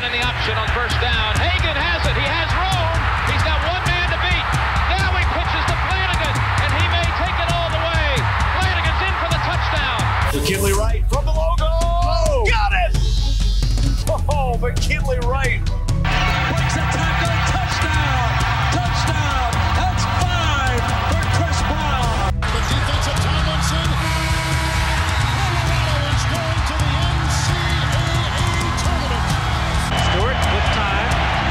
in the option on first down. Hagan has it. He has room. He's got one man to beat. Now he pitches to Flanagan, and he may take it all the way. Flanagan's in for the touchdown. McKinley Wright from the logo. Got it! Oh, McKinley Wright. Breaks a tackle. Touchdown. Touchdown. That's 5 for Chris Brown. The defensive Tomlinson. Colorado is going to the NCAA tournament. Stewart with time.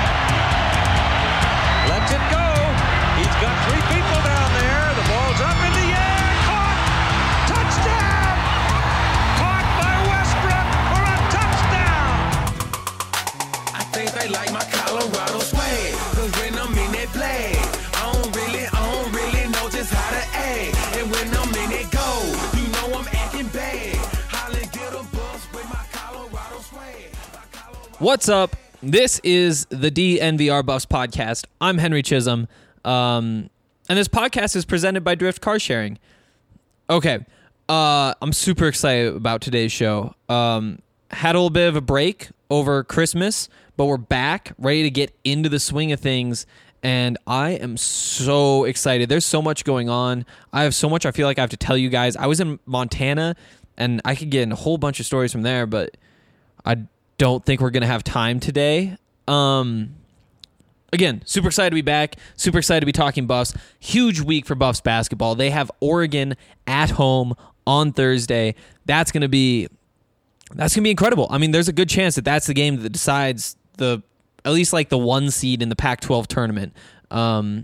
Lets it go. He's got 3 people down there. The ball's up in the air. Caught. Touchdown. Caught by Westbrook for a touchdown. I think they like my Colorado swag, 'cause when I'm in that play, I don't really know just how to act. And when I'm in it go, you know I'm acting bad. Holly get a bus with my Colorado swag. What's up? This is the DNVR Buffs podcast. I'm Henry Chisholm, and this podcast is presented by Drift Car Sharing. Okay, I'm super excited about today's show. Had a little bit of a break over Christmas, but we're back, ready to get into the swing of things, and I am so excited. There's so much going on. I have so much I feel like I have to tell you guys. I was in Montana, and I could get in a whole bunch of stories from there, but I don't think we're going to have time today. Again, super excited to be back. Super excited to be talking Buffs. Huge week for Buffs basketball. They have Oregon at home on Thursday. That's going to be incredible. I mean, there's a good chance that that's the game that decides at least like the 1 seed in the Pac-12 tournament. A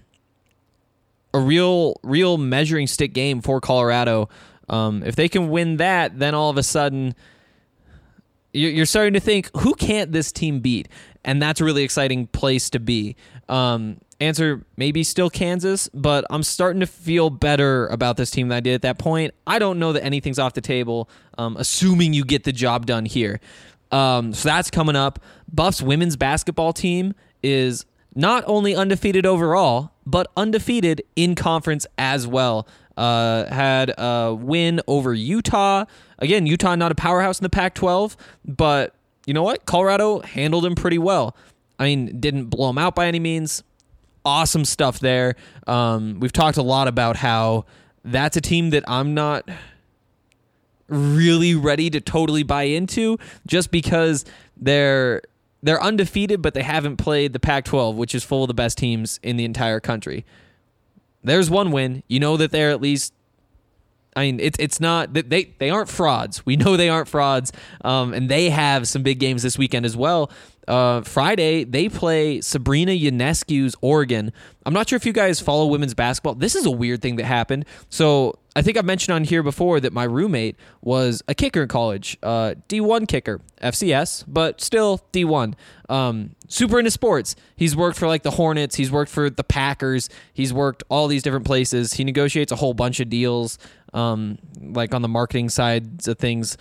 real measuring stick game for Colorado. If they can win that, then all of a sudden you're starting to think, who can't this team beat? And that's a really exciting place to be. Answer, maybe still Kansas, but I'm starting to feel better about this team than I did at that point. I don't know that anything's off the table, assuming you get the job done here. So that's coming up. Buffs women's basketball team is not only undefeated overall, but undefeated in conference as well. Had a win over Utah. Again, Utah not a powerhouse in the Pac-12, but you know what? Colorado handled them pretty well. I mean, didn't blow them out by any means. Awesome stuff there. We've talked a lot about how that's a team that I'm not really ready to totally buy into, just because they're undefeated, but they haven't played the Pac-12, which is full of the best teams in the entire country. There's one win. You know that they're at least, I mean, it's not that they aren't frauds. We know they aren't frauds, and they have some big games this weekend as well. Friday, they play Sabrina Ionescu's Oregon. I'm not sure if you guys follow women's basketball. This is a weird thing that happened. So I think I've mentioned on here before that my roommate was a kicker in college, D1 kicker, FCS, but still D1. Super into sports. He's worked for like the Hornets. He's worked for the Packers. He's worked all these different places. He negotiates a whole bunch of deals, like on the marketing sides of things.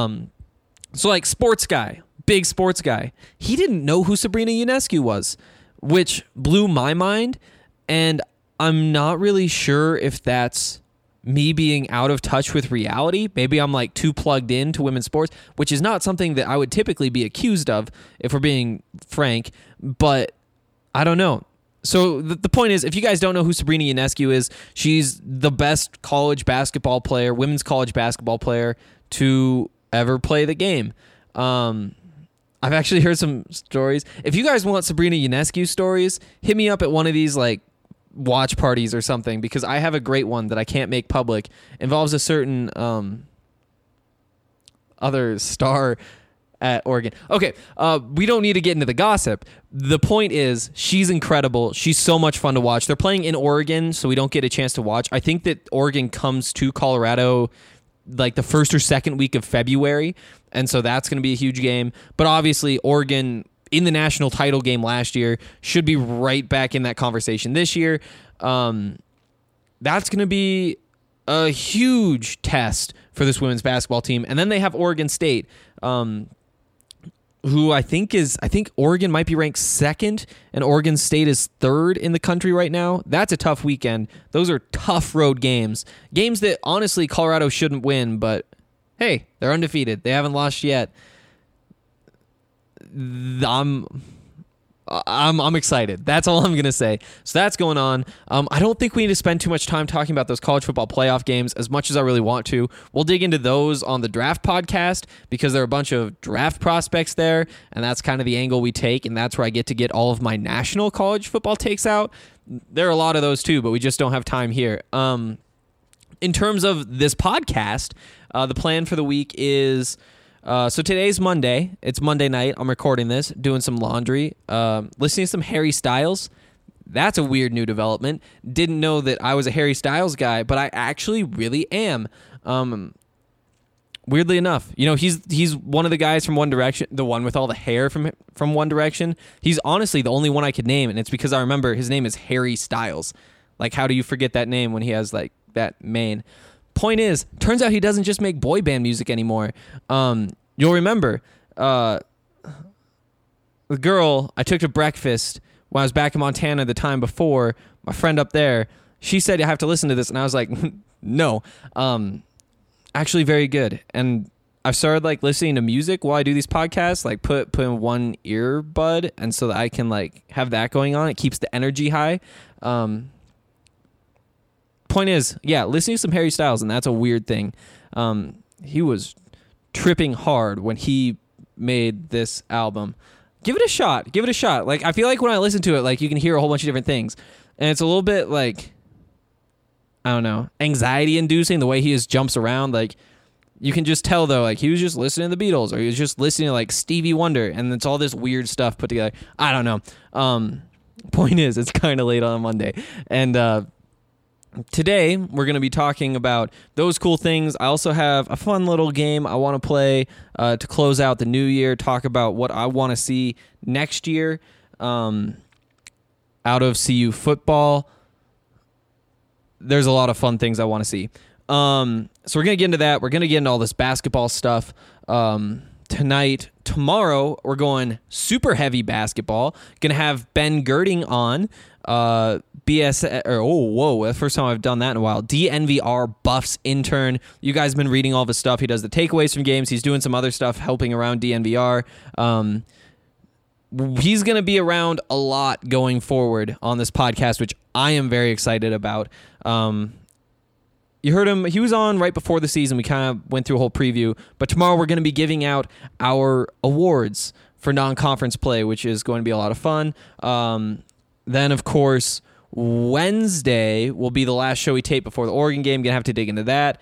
So like sports guy. Big sports guy. He didn't know who Sabrina Ionescu was, which blew my mind, and I'm not really sure if that's me being out of touch with reality. Maybe I'm like too plugged into women's sports, which is not something that I would typically be accused of, if we're being frank, but I don't know. So the point is, if you guys don't know who Sabrina Ionescu is, she's the best college basketball player, women's college basketball player to ever play the game. I've actually heard some stories. If you guys want Sabrina Ionescu stories, hit me up at one of these like watch parties or something, because I have a great one that I can't make public. It involves a certain other star at Oregon. Okay, we don't need to get into the gossip. The point is, she's incredible. She's so much fun to watch. They're playing in Oregon, so we don't get a chance to watch. I think that Oregon comes to Colorado like the first or second week of February, and so that's going to be a huge game. But obviously, Oregon in the national title game last year should be right back in that conversation this year. That's going to be a huge test for this women's basketball team. And then they have Oregon State, who I think Oregon might be ranked second, and Oregon State is third in the country right now. That's a tough weekend. Those are tough road games. Games that, honestly, Colorado shouldn't win, but hey, they're undefeated. They haven't lost yet. I'm excited. That's all I'm going to say. So that's going on. I don't think we need to spend too much time talking about those college football playoff games as much as I really want to. We'll dig into those on the draft podcast because there are a bunch of draft prospects there, and that's kind of the angle we take, and that's where I get to get all of my national college football takes out. There are a lot of those too, but we just don't have time here. In terms of this podcast, the plan for the week is... so today's Monday. It's Monday night. I'm recording this, doing some laundry, listening to some Harry Styles. That's a weird new development. Didn't know that I was a Harry Styles guy, but I actually really am. Weirdly enough, he's one of the guys from One Direction, the one with all the hair from One Direction. He's honestly the only one I could name, and it's because I remember his name is Harry Styles. Like, how do you forget that name when he has like that mane? Point is, turns out he doesn't just make boy band music anymore. You'll remember the girl I took to breakfast when I was back in Montana the time before, my friend up there, she said, "You have to listen to this," and I was like, no. Actually very good. And I've started like listening to music while I do these podcasts, like put in one earbud, and so that I can like have that going on. It keeps the energy high. Point is, yeah, listening to some Harry Styles, and that's a weird thing. He was tripping hard when he made this album. Give it a shot. Like, I feel like when I listen to it, like, you can hear a whole bunch of different things, and it's a little bit like, I don't know, anxiety inducing the way he just jumps around. Like, you can just tell though, like, he was just listening to the Beatles, or he was just listening to like Stevie Wonder, and it's all this weird stuff put together. I don't know. Point is, it's kind of late on a Monday, and today, we're going to be talking about those cool things. I also have a fun little game I want to play to close out the new year, talk about what I want to see next year out of CU football. There's a lot of fun things I want to see. So we're going to get into that. We're going to get into all this basketball stuff tonight. Tomorrow, we're going super heavy basketball. Going to have Ben Girding on. That's the first time I've done that in a while. DNVR Buffs intern. You guys have been reading all of his stuff. He does the takeaways from games. He's doing some other stuff helping around DNVR. He's going to be around a lot going forward on this podcast, which I am very excited about. You heard him. He was on right before the season. We kind of went through a whole preview. But tomorrow we're going to be giving out our awards for non-conference play, which is going to be a lot of fun. Then, of course, Wednesday will be the last show we tape before the Oregon game. Going to have to dig into that.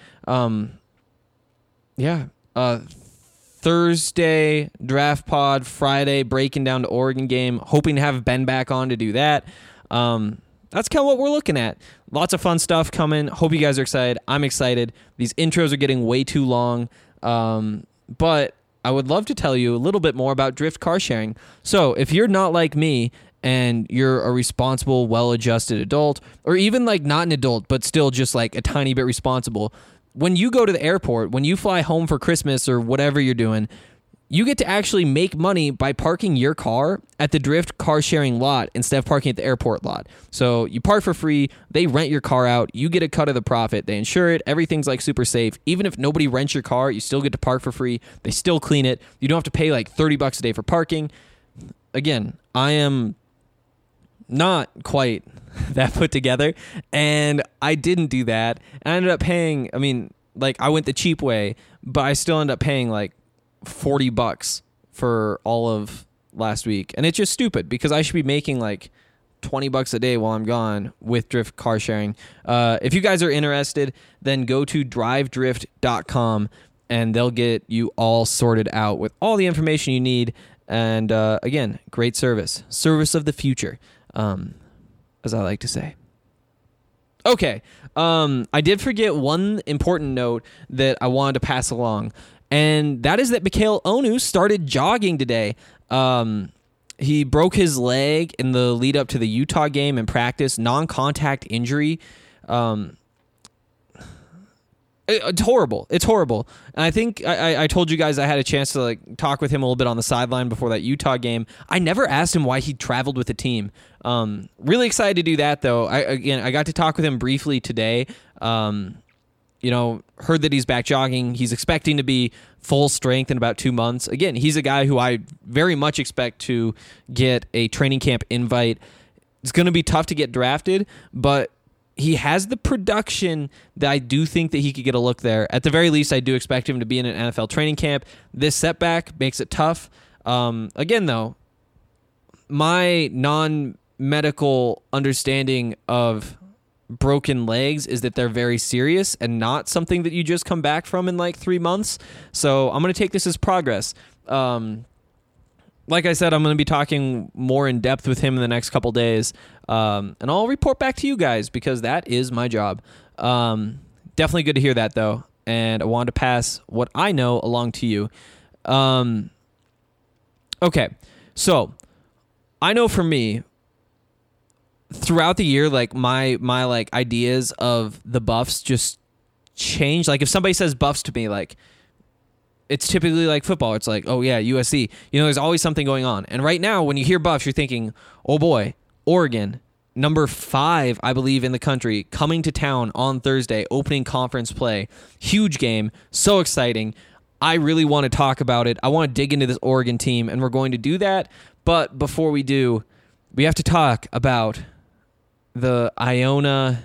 Thursday, draft pod. Friday, breaking down the Oregon game. Hoping to have Ben back on to do that. That's kind of what we're looking at. Lots of fun stuff coming. Hope you guys are excited. I'm excited. These intros are getting way too long. But I would love to tell you a little bit more about Drift car sharing. So if you're not like me and you're a responsible, well-adjusted adult, or even like not an adult, but still just like a tiny bit responsible, when you go to the airport, when you fly home for Christmas or whatever you're doing, you get to actually make money by parking your car at the Drift car sharing lot instead of parking at the airport lot. So you park for free, they rent your car out, you get a cut of the profit, they insure it, everything's like super safe. Even if nobody rents your car, you still get to park for free, they still clean it, you don't have to pay like $30 a day for parking. Again, I am not quite that put together, and I didn't do that. And I ended up paying, I went the cheap way, but I still ended up paying like $40 for all of last week. And it's just stupid because I should be making like $20 a day while I'm gone with Drift car sharing. If you guys are interested, then go to drivedrift.com and they'll get you all sorted out with all the information you need. And again, great service of the future, as I like to say. Okay. I did forget one important note that I wanted to pass along. And that is that Mikhail Onu started jogging today. He broke his leg in the lead up to the Utah game in practice, non-contact injury. It's horrible. And I think I told you guys I had a chance to like talk with him a little bit on the sideline before that Utah game. I never asked him why he traveled with the team. Really excited to do that though. I got to talk with him briefly today. heard that he's back jogging. He's expecting to be full strength in about 2 months. Again, he's a guy who I very much expect to get a training camp invite. It's going to be tough to get drafted, but he has the production that I do think that he could get a look there. At the very least, I do expect him to be in an NFL training camp. This setback makes it tough. Again, though, my non-medical understanding of broken legs is that they're very serious and not something that you just come back from in like 3 months. So I'm going to take this as progress. Like I said, I'm going to be talking more in depth with him in the next couple days. And I'll report back to you guys because that is my job. Definitely good to hear that though. And I wanted to pass what I know along to you. Okay. So I know for me, throughout the year, like my like ideas of the Buffs just change. Like if somebody says Buffs to me, like it's typically like football. It's like, oh yeah, USC. There's always something going on. And right now, when you hear Buffs, you're thinking, oh boy, Oregon, number 5, I believe, in the country, coming to town on Thursday, opening conference play. Huge game, so exciting. I really want to talk about it. I want to dig into this Oregon team, and we're going to do that. But before we do, we have to talk about the Iona.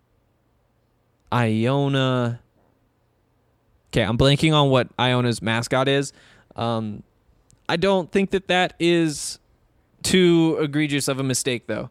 Okay, I'm blanking on what Iona's mascot is. I don't think that is too egregious of a mistake, though.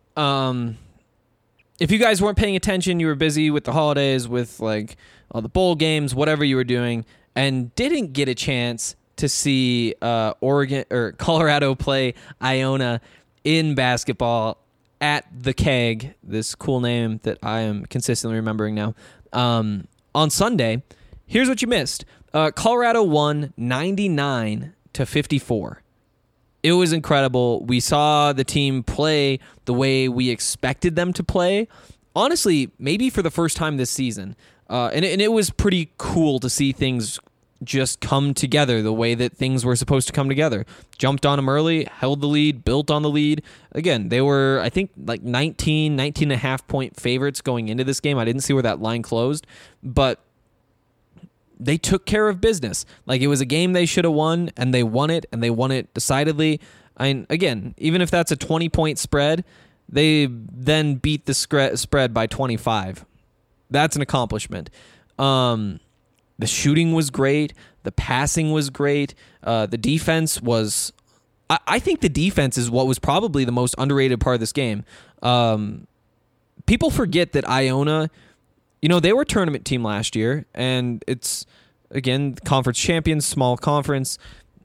If you guys weren't paying attention, you were busy with the holidays, with like all the bowl games, whatever you were doing, and didn't get a chance to see Oregon or Colorado play Iona in basketball at the Keg, this cool name that I am consistently remembering now, on Sunday. Here's what you missed. Colorado won 99-54. It was incredible. We saw the team play the way we expected them to play. Honestly, maybe for the first time this season. And it was pretty cool to see things just come together the way that things were supposed to come together. Jumped on them early, held the lead, built on the lead. Again, they were, I think, like 19 and a half point favorites going into this game. I didn't see where that line closed, but they took care of business. Like, it was a game they should have won, and they won it decidedly. Again, even if that's a 20-point spread, they then beat the spread by 25. That's an accomplishment. The shooting was great. The passing was great. The defense was... I think the defense is what was probably the most underrated part of this game. People forget that Iona... they were a tournament team last year, and it's, again, conference champions, small conference.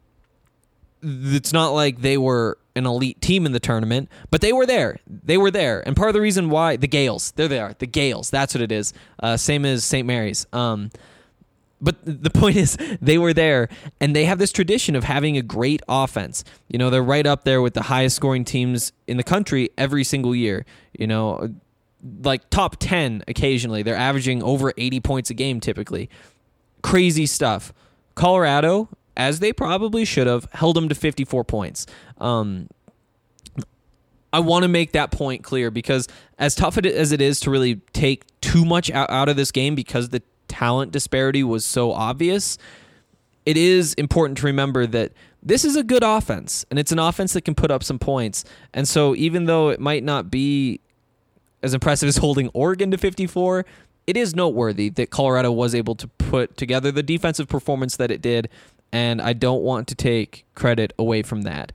It's not like they were an elite team in the tournament, but they were there. And part of the reason why... The Gales. They're there. The Gales. That's what it is. Same as St. Mary's. But the point is, they were there, and they have this tradition of having a great offense. They're right up there with the highest scoring teams in the country every single year. Like top 10 occasionally. They're averaging over 80 points a game typically. Crazy stuff. Colorado, as they probably should have, held them to 54 points. I want to make that point clear because as tough as it is to really take too much out of this game because the talent disparity was so obvious, it is important to remember that this is a good offense, and it's an offense that can put up some points. And so even though it might not be as impressive as holding Oregon to 54, it is noteworthy that Colorado was able to put together the defensive performance that it did, and I don't want to take credit away from that.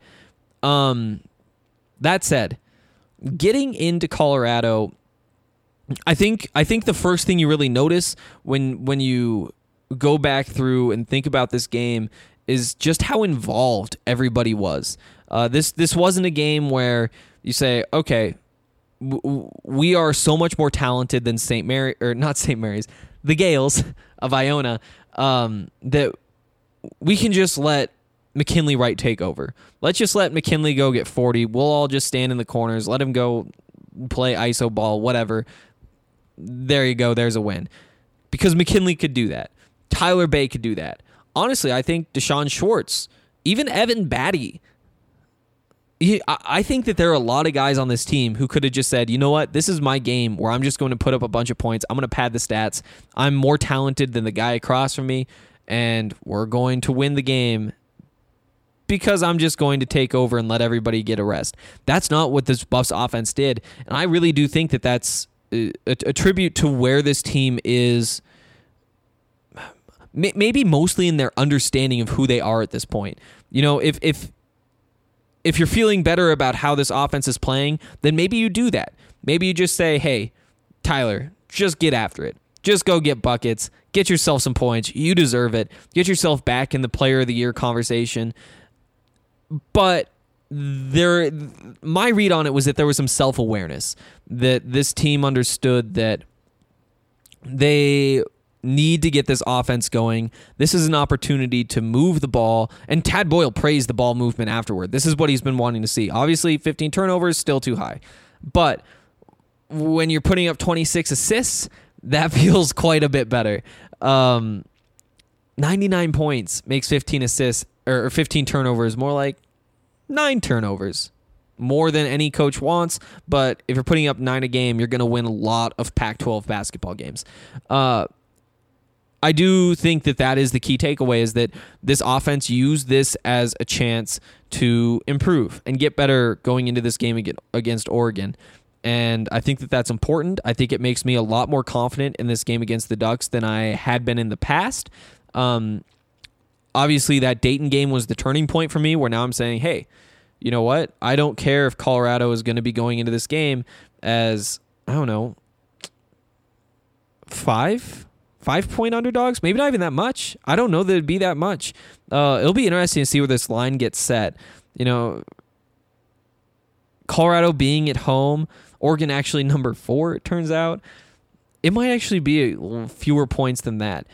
That said, getting into Colorado, I think the first thing you really notice when you go back through and think about this game is just how involved everybody was. This wasn't a game where you say, okay, we are so much more talented than the Gales of Iona, that we can just let McKinley Wright take over. Let's just let McKinley go get 40. We'll all just stand in the corners, let him go play iso ball, whatever. There you go. There's a win. Because McKinley could do that. Tyler Bay could do that. Honestly, I think Deshaun Schwartz, even Evan Batty, I think that there are a lot of guys on this team who could have just said, you know what, this is my game where I'm just going to put up a bunch of points. I'm going to pad the stats. I'm more talented than the guy across from me, and we're going to win the game because I'm just going to take over and let everybody get a rest. That's not what this Buffs offense did, and I really do think that that's a tribute to where this team is, maybe mostly in their understanding of who they are at this point. You know, if you're feeling better about how this offense is playing, then maybe you do that. Maybe you just say, hey, Tyler, just get after it. Just go get buckets. Get yourself some points. You deserve it. Get yourself back in the player of the year conversation. But my read on it was that there was some self-awareness, that this team understood that they need to get this offense going. This is an opportunity to move the ball, and Tad Boyle praised the ball movement afterward. This is what he's been wanting to see. Obviously, 15 turnovers, still too high. But when you're putting up 26 assists, that feels quite a bit better. 99 points makes 15 assists, or 15 turnovers, more like 9 turnovers. More than any coach wants, but if you're putting up 9 a game, you're going to win a lot of Pac-12 basketball games. I do think that is the key takeaway, is that this offense used this as a chance to improve and get better going into this game against Oregon. And I think that that's important. I think it makes me a lot more confident in this game against the Ducks than I had been in the past. Obviously, that Dayton game was the turning point for me, where now I'm saying, hey, you know what? I don't care if Colorado is going to be going into this game as, I don't know, 5-point underdogs, maybe not even that much. I don't know that it'd be that much. It'll be interesting to see where this line gets set. You know, Colorado being at home, Oregon actually number 4, it turns out. It might actually be fewer points than that.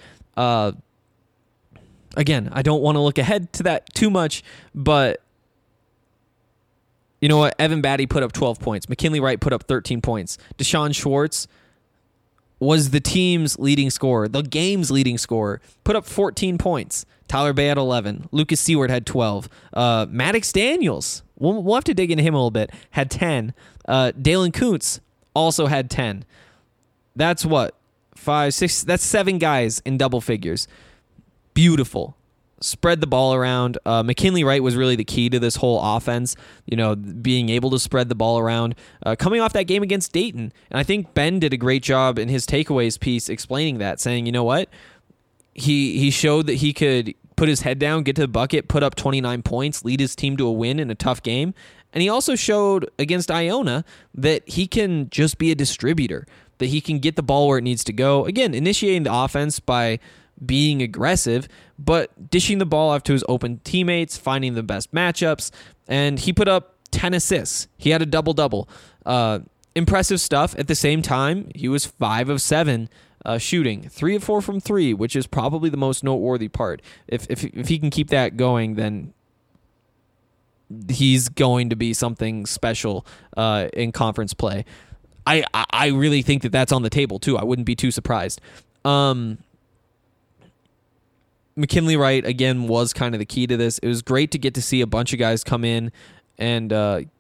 Again, I don't want to look ahead to that too much, but you know what? Evan Batty put up 12 points. McKinley Wright put up 13 points. Deshaun Schwartz was the team's leading scorer, the game's leading scorer, put up 14 points. Tyler Bay had 11. Lucas Seward had 12. Maddox Daniels, we'll have to dig into him a little bit, had 10. Dalen Kuntz also had 10. That's what? 5, 6, that's 7 guys in double figures. Beautiful. Spread the ball around. McKinley Wright was really the key to this whole offense, you know, being able to spread the ball around. Coming off that game against Dayton, and I think Ben did a great job in his takeaways piece explaining that, saying, you know what, he showed that he could put his head down, get to the bucket, put up 29 points, lead his team to a win in a tough game, and he also showed against Iona that he can just be a distributor, that he can get the ball where it needs to go. Again, initiating the offense by being aggressive, but dishing the ball off to his open teammates, finding the best matchups, and he put up 10 assists. He had a double-double. Impressive stuff. At the same time, he was 5 of 7 shooting, 3 of 4 from 3, which is probably the most noteworthy part. If he can keep that going, then he's going to be something special in conference play. I really think that that's on the table, too. I wouldn't be too surprised. McKinley Wright, again, was kind of the key to this. It was great to get to see a bunch of guys come in and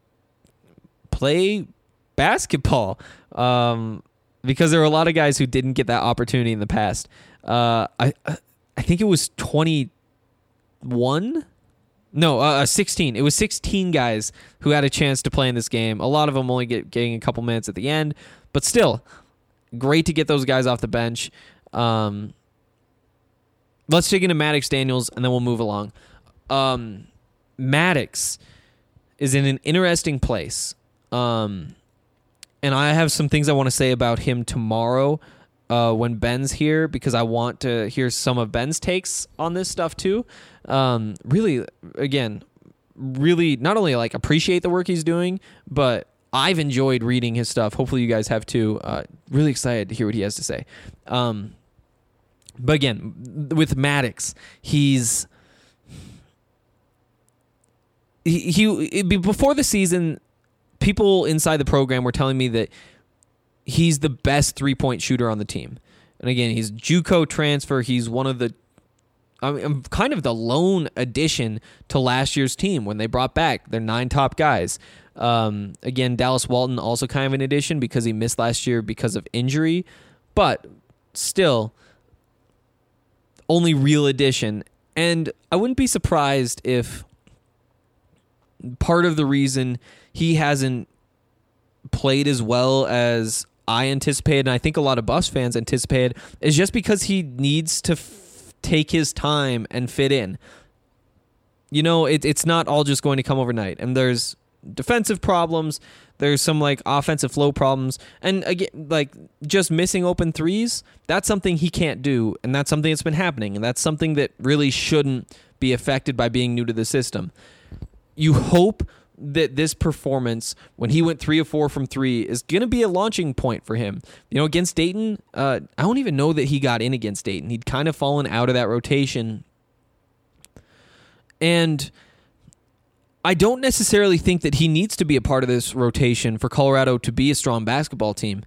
play basketball because there were a lot of guys who didn't get that opportunity in the past. I think it was 21? No, 16. It was 16 guys who had a chance to play in this game. A lot of them only getting a couple minutes at the end, but still, great to get those guys off the bench. Let's dig into Maddox Daniels, and then we'll move along. Maddox is in an interesting place. And I have some things I want to say about him tomorrow when Ben's here, because I want to hear some of Ben's takes on this stuff too. Really not only like appreciate the work he's doing, but I've enjoyed reading his stuff. Hopefully you guys have too. Really excited to hear what he has to say. But again, with Maddox, he before the season, people inside the program were telling me that he's the best 3-point shooter on the team. And again, he's JUCO transfer. He's one of the kind of the lone addition to last year's team when they brought back their 9 top guys. Again, Dallas Walton also kind of an addition because he missed last year because of injury, but still only real addition. And I wouldn't be surprised if part of the reason he hasn't played as well as I anticipated, and I think a lot of Buffs fans anticipated, is just because he needs to take his time and fit in. You know, it's not all just going to come overnight. And there's defensive problems. There's some like offensive flow problems. And again, like just missing open threes, that's something he can't do. And that's something that's been happening. And that's something that really shouldn't be affected by being new to the system. You hope that this performance, when he went 3 of 4 from 3, is going to be a launching point for him. You know, against Dayton, I don't even know that he got in against Dayton. He'd kind of fallen out of that rotation. And I don't necessarily think that he needs to be a part of this rotation for Colorado to be a strong basketball team.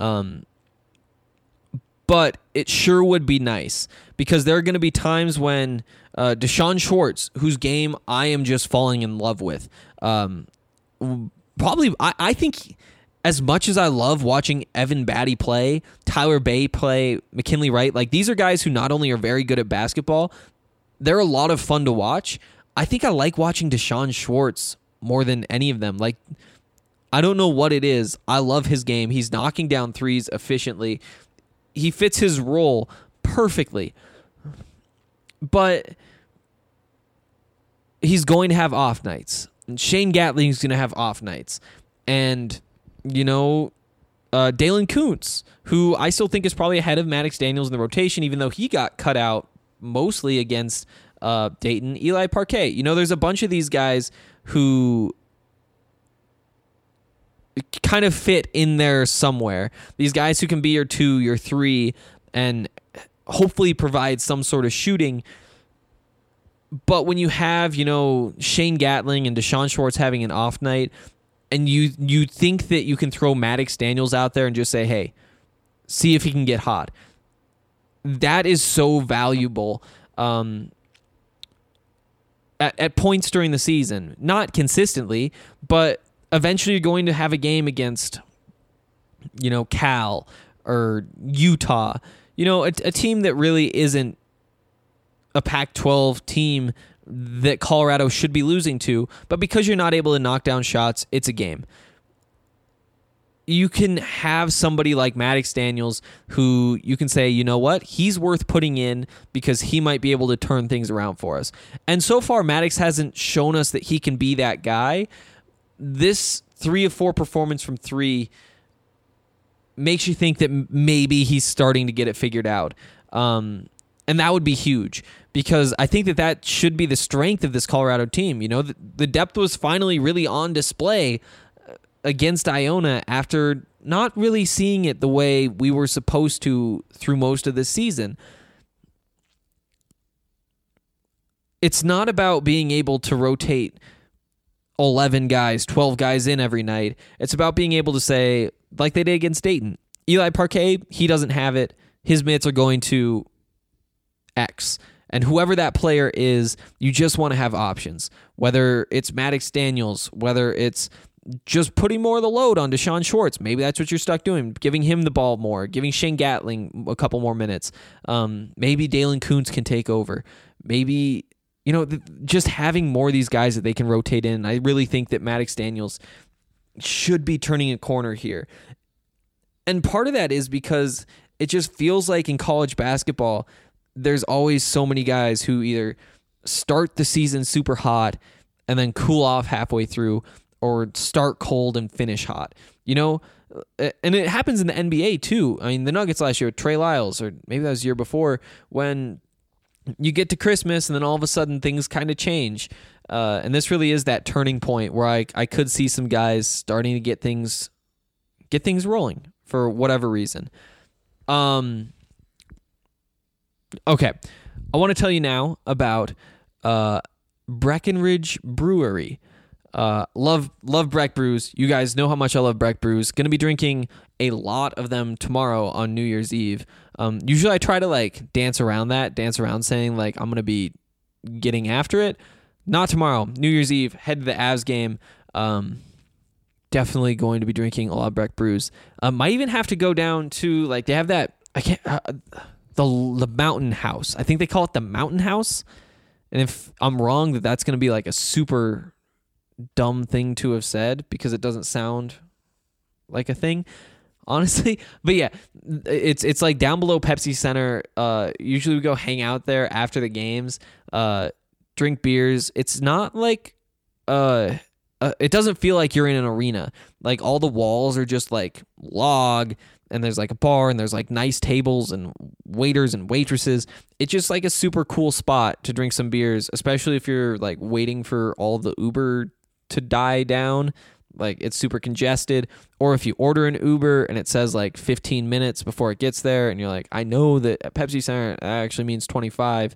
But it sure would be nice, because there are going to be times when Deshaun Schwartz, whose game I am just falling in love with, probably I think as much as I love watching Evan Batty play, Tyler Bay play, McKinley Wright, like these are guys who not only are very good at basketball, they're a lot of fun to watch. I think I like watching Deshaun Schwartz more than any of them. Like, I don't know what it is. I love his game. He's knocking down threes efficiently. He fits his role perfectly. But he's going to have off nights. And Shane Gatling's going to have off nights. And, you know, Dalen Kuntz, who I still think is probably ahead of Maddox Daniels in the rotation, even though he got cut out mostly against Dayton. Eli Parquet. You know, there's a bunch of these guys who kind of fit in there somewhere. These guys who can be your 2, your 3, and hopefully provide some sort of shooting. But when you have, you know, Shane Gatling and Deshaun Schwartz having an off night, and you think that you can throw Maddox Daniels out there and just say, hey, see if he can get hot. That is so valuable at points during the season. Not consistently, but eventually you're going to have a game against, you know, Cal or Utah. You know, a team that really isn't a Pac-12 team that Colorado should be losing to, but because you're not able to knock down shots, it's a game. You can have somebody like Maddox Daniels who you can say, you know what, he's worth putting in because he might be able to turn things around for us. And so far, Maddox hasn't shown us that he can be that guy. This 3 of 4 performance from 3 makes you think that maybe he's starting to get it figured out. And that would be huge, because I think that should be the strength of this Colorado team. You know, the depth was finally really on display against Iona after not really seeing it the way we were supposed to through most of the season. It's not about being able to rotate 11 guys, 12 guys in every night. It's about being able to say, like they did against Dayton, Eli Parquet, he doesn't have it. His minutes are going to X. And whoever that player is, you just want to have options. Whether it's Maddox Daniels, whether it's just putting more of the load on Deshaun Schwartz. Maybe that's what you're stuck doing, giving him the ball more, giving Shane Gatling a couple more minutes. Maybe Dalen Kuntz can take over. Maybe, you know, just having more of these guys that they can rotate in. I really think that Maddox Daniels should be turning a corner here. And part of that is because it just feels like in college basketball, there's always so many guys who either start the season super hot and then cool off halfway through, or start cold and finish hot. You know, and it happens in the NBA too. I mean, the Nuggets last year with Trey Lyles, or maybe that was the year before, when you get to Christmas and then all of a sudden things kind of change. And this really is that turning point where I could see some guys starting to get things rolling for whatever reason. Okay, I want to tell you now about Breckenridge Brewery. Love Breck brews. You guys know how much I love Breck brews. Gonna be drinking a lot of them tomorrow on New Year's Eve. Usually I try to like dance around saying like I'm gonna be getting after it. Not tomorrow. New Year's Eve, head to the Avs game. Definitely going to be drinking a lot of Breck brews. Might even have to go down to like they have that the Mountain House. I think they call it the Mountain House. And if I'm wrong, that's going to be like a super dumb thing to have said because it doesn't sound like a thing, honestly. But yeah, it's like down below Pepsi Center. Usually we go hang out there after the games, drink beers. It's not like it doesn't feel like you're in an arena. Like all the walls are just like log, and there's like a bar, and there's like nice tables and waiters and waitresses. It's just like a super cool spot to drink some beers, especially if you're like waiting for all the Uber to die down. Like it's super congested. Or if you order an Uber and it says like 15 minutes before it gets there, and you're like, I know that at Pepsi Center that actually means 25.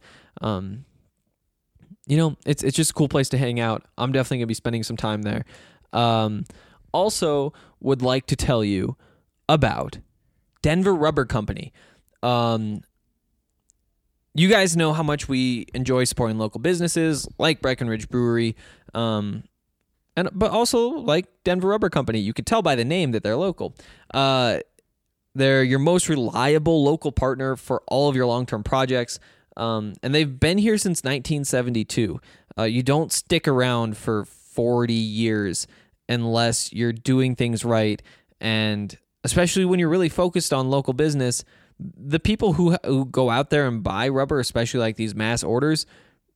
It's just a cool place to hang out. I'm definitely gonna be spending some time there. Also would like to tell you about Denver Rubber Company. You guys know how much we enjoy supporting local businesses like Breckenridge Brewery, but also like Denver Rubber Company. You could tell by the name that they're local. They're your most reliable local partner for all of your long-term projects, and they've been here since 1972. You don't stick around for 40 years unless you're doing things right, and especially when you're really focused on local business. The people who go out there and buy rubber, especially like these mass orders,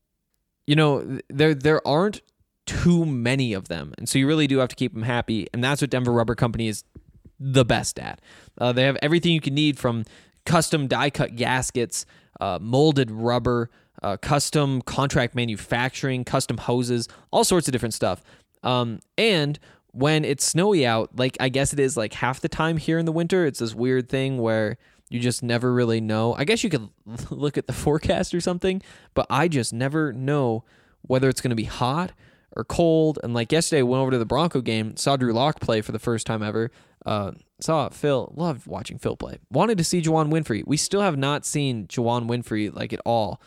there aren't too many of them, and so you really do have to keep them happy, and that's what Denver Rubber Company is the best at. They have everything you can need, from custom die-cut gaskets, molded rubber, custom contract manufacturing, custom hoses, all sorts of different stuff. And when it's snowy out, like I guess it is like half the time here in the winter, it's this weird thing where you just never really know. I guess you could look at the forecast or something, but I just never know whether it's going to be hot or cold. And like yesterday, I went over to the Bronco game, saw Drew Lock play for the first time ever. Saw Phil, loved watching Phil play. Wanted to see Juwan Winfrey. We still have not seen Juwan Winfrey like at all.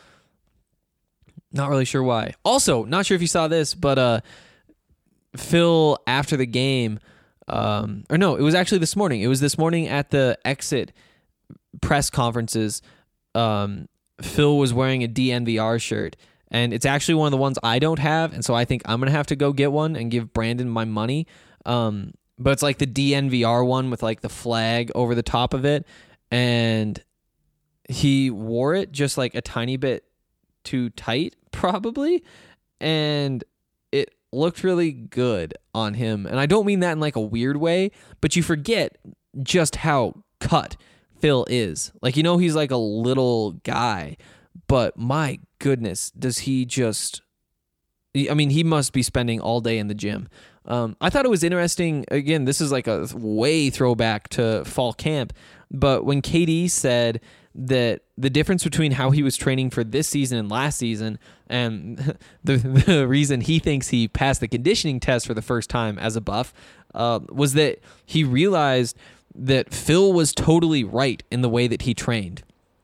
Not really sure why. Also, not sure if you saw this, but Phil after the game, or no, it was actually this morning. It was this morning at the exit press conferences. Phil was wearing a DNVR shirt, and it's actually one of the ones I don't have, and so I think I'm gonna have to go get one and give Brandon my money. But it's like the DNVR one with like the flag over the top of it, and he wore it just like a tiny bit too tight, probably, and it looked really good on him. And I don't mean that in like a weird way, but you forget just how cut Phil is. Like, he's like a little guy, but my goodness, does he just... I mean, he must be spending all day in the gym. I thought it was interesting. Again, this is like a way throwback to fall camp, but when KD said that the difference between how he was training for this season and last season, and the reason he thinks he passed the conditioning test for the first time as a Buff, was that he realized that Phil was totally right in the way that he trained.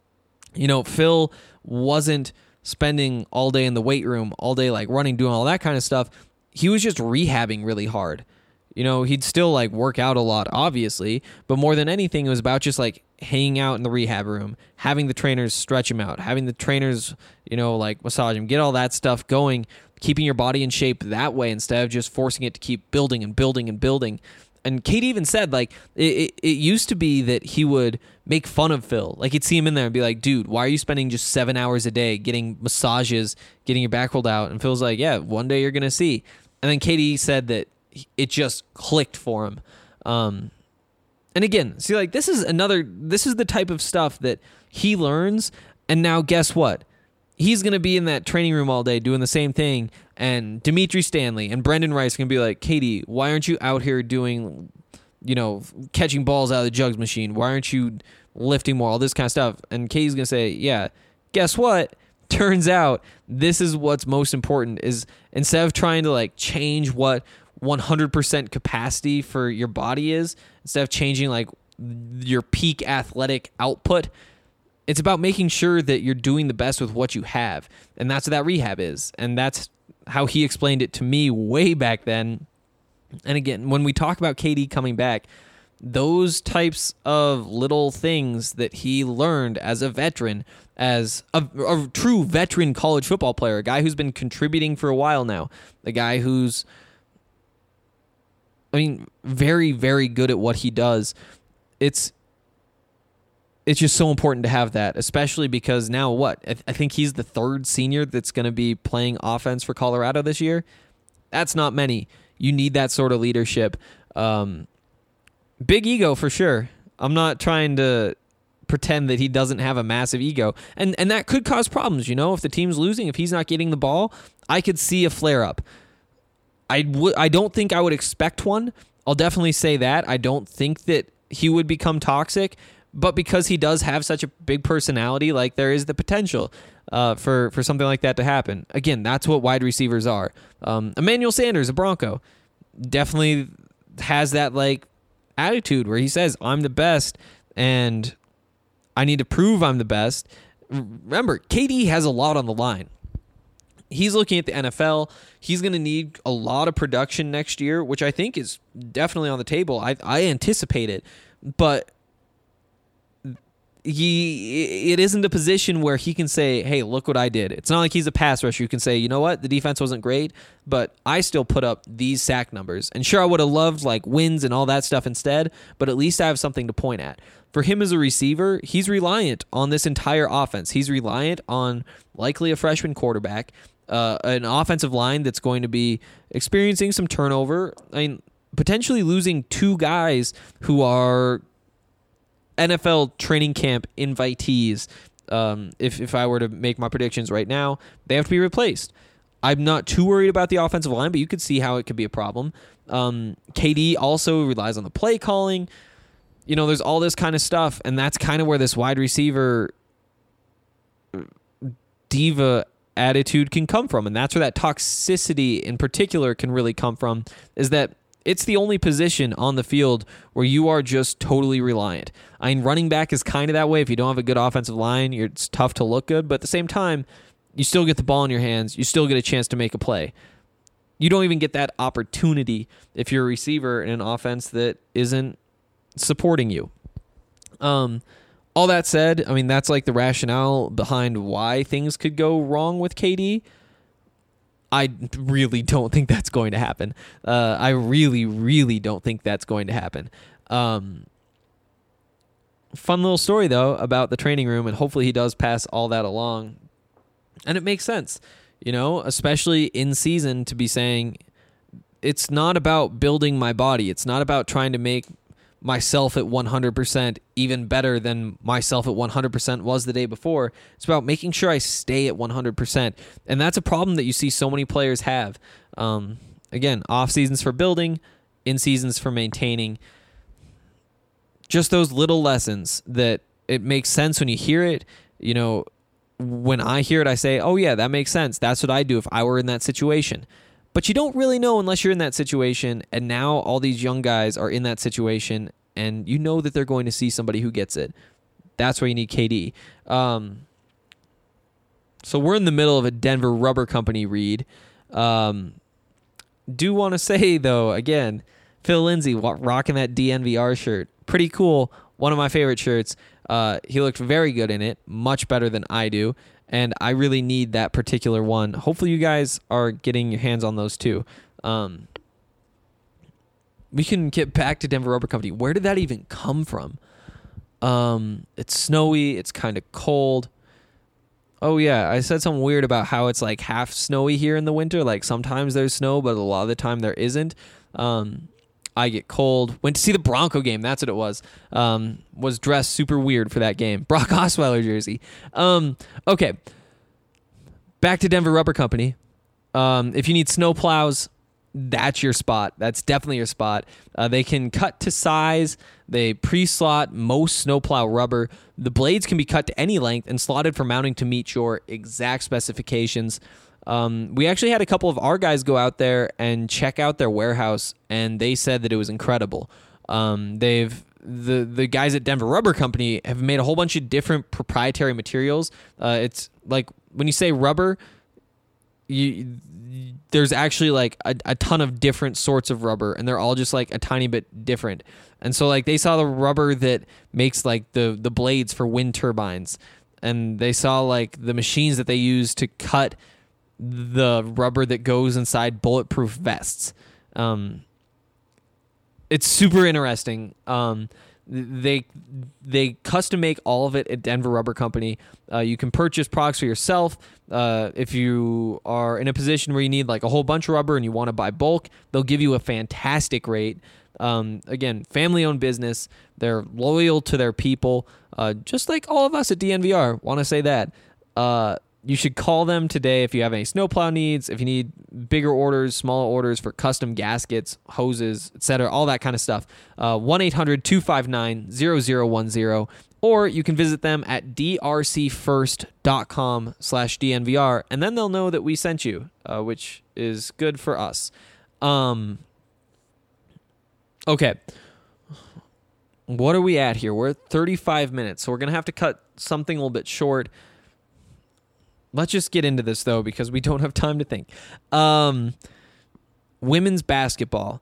Phil wasn't spending all day in the weight room, all day like running, doing all that kind of stuff. He was just rehabbing really hard. He'd still like work out a lot, obviously, but more than anything, it was about just like hanging out in the rehab room, having the trainers stretch him out, having the trainers, like massage him, get all that stuff going, keeping your body in shape that way instead of just forcing it to keep building and building and building. And Kate even said, like, it used to be that he would make fun of Phil. Like, he'd see him in there and be like, dude, why are you spending just 7 hours a day getting massages, getting your back rolled out? And Phil's like, yeah, one day you're going to see. And then Katie said that it just clicked for him. And again, see, like, this is the type of stuff that he learns. And now guess what? He's going to be in that training room all day doing the same thing. And Dimitri Stanley and Brendan Rice can be like, Katie, why aren't you out here doing, catching balls out of the jugs machine? Why aren't you lifting more? All this kind of stuff. And Katie's going to say, yeah, guess what? turns out this is what's most important, is instead of trying to like change what 100% capacity for your body is, instead of changing like your peak athletic output, it's about making sure that you're doing the best with what you have. And that's what that rehab is. And that's how he explained it to me way back then. And again, when we talk about KD coming back, those types of little things that he learned as a veteran, as a true veteran college football player, a guy who's been contributing for a while now, a guy who's, very, very good at what he does. It's just so important to have that, especially because now I think he's the third senior that's going to be playing offense for Colorado this year. That's not many. You need that sort of leadership. Big ego for sure. I'm not trying to pretend that he doesn't have a massive ego. And that could cause problems, if the team's losing, if he's not getting the ball, I could see a flare-up. I don't think I would expect one. I'll definitely say that. I don't think that he would become toxic, but because he does have such a big personality, like there is the potential for something like that to happen. Again, that's what wide receivers are. Emmanuel Sanders, a Bronco, definitely has that like attitude where he says, I'm the best and I need to prove I'm the best. Remember, KD has a lot on the line. He's looking at the NFL. He's going to need a lot of production next year, which I think is definitely on the table. I anticipate it, but it isn't a position where he can say, hey, look what I did. It's not like he's a pass rusher. You can say, you know what? The defense wasn't great, but I still put up these sack numbers. And sure, I would have loved like wins and all that stuff instead, but at least I have something to point at. For him as a receiver, he's reliant on this entire offense. He's reliant on likely a freshman quarterback, an offensive line that's going to be experiencing some turnover. Potentially losing two guys who are NFL training camp invitees. If I were to make my predictions right now, they have to be replaced. I'm not too worried about the offensive line, but you could see how it could be a problem. KD also relies on the play calling. There's all this kind of stuff, and that's kind of where this wide receiver diva attitude can come from, and that's where that toxicity in particular can really come from, is that it's the only position on the field where you are just totally reliant. Running back is kind of that way. If you don't have a good offensive line, it's tough to look good, but at the same time, you still get the ball in your hands. You still get a chance to make a play. You don't even get that opportunity if you're a receiver in an offense that isn't supporting you. All that said, that's like the rationale behind why things could go wrong with KD. I really don't think that's going to happen. I really, really don't think that's going to happen. Fun little story, though, about the training room, and hopefully he does pass all that along. And it makes sense, especially in season, to be saying it's not about building my body. It's not about trying to make myself at 100% even better than myself at 100% was the day before. It's about making sure I stay at 100%. And that's a problem that you see so many players have. Again, off seasons for building, in seasons for maintaining. Just those little lessons that it makes sense when you hear it. When I hear it, I say, oh yeah, that makes sense. That's what I'd do if I were in that situation. But you don't really know unless you're in that situation, and now all these young guys are in that situation, and you know that they're going to see somebody who gets it. That's where you need KD. So we're in the middle of a Denver Rubber Company read. Do want to say, though, again, Phil Lindsay rocking that DNVR shirt. Pretty cool. One of my favorite shirts. He looked very good in it, much better than I do. And I really need that particular one. Hopefully you guys are getting your hands on those too. We can get back to Denver Rubber Company. Where did that even come from? It's snowy. It's kind of cold. Oh, yeah. I said something weird about how it's like half snowy here in the winter. Like sometimes there's snow, but a lot of the time there isn't. I get cold. Went to see the Bronco game. That's what it was. Was dressed super weird for that game. Brock Osweiler jersey. Okay. Back to Denver Rubber Company. If you need snow plows, that's your spot. That's definitely your spot. They can cut to size. They pre-slot most snowplow rubber. The blades can be cut to any length and slotted for mounting to meet your exact specifications. We actually had a couple of our guys go out there and check out their warehouse, and they said that it was incredible. The guys at Denver Rubber Company have made a whole bunch of different proprietary materials. It's like when you say rubber, there's actually like a ton of different sorts of rubber, and they're all just like a tiny bit different. And so like they saw the rubber that makes like the blades for wind turbines, and they saw like the machines that they use to cut the rubber that goes inside bulletproof vests. It's super interesting. They custom make all of it at Denver Rubber Company. You can purchase products for yourself. If you are in a position where you need like a whole bunch of rubber and you want to buy bulk, they'll give you a fantastic rate. Again, family-owned business. They're loyal to their people, just like all of us at DNVR. Want to say that. You should call them today if you have any snowplow needs, if you need bigger orders, smaller orders for custom gaskets, hoses, etc., all that kind of stuff. 1-800-259-0010, or you can visit them at drcfirst.com/DNVR, and then they'll know that we sent you, which is good for us. Okay. What are we at here? We're at 35 minutes, so we're going to have to cut something a little bit short. Let's just get into this, though, because we don't have time to think. Women's basketball.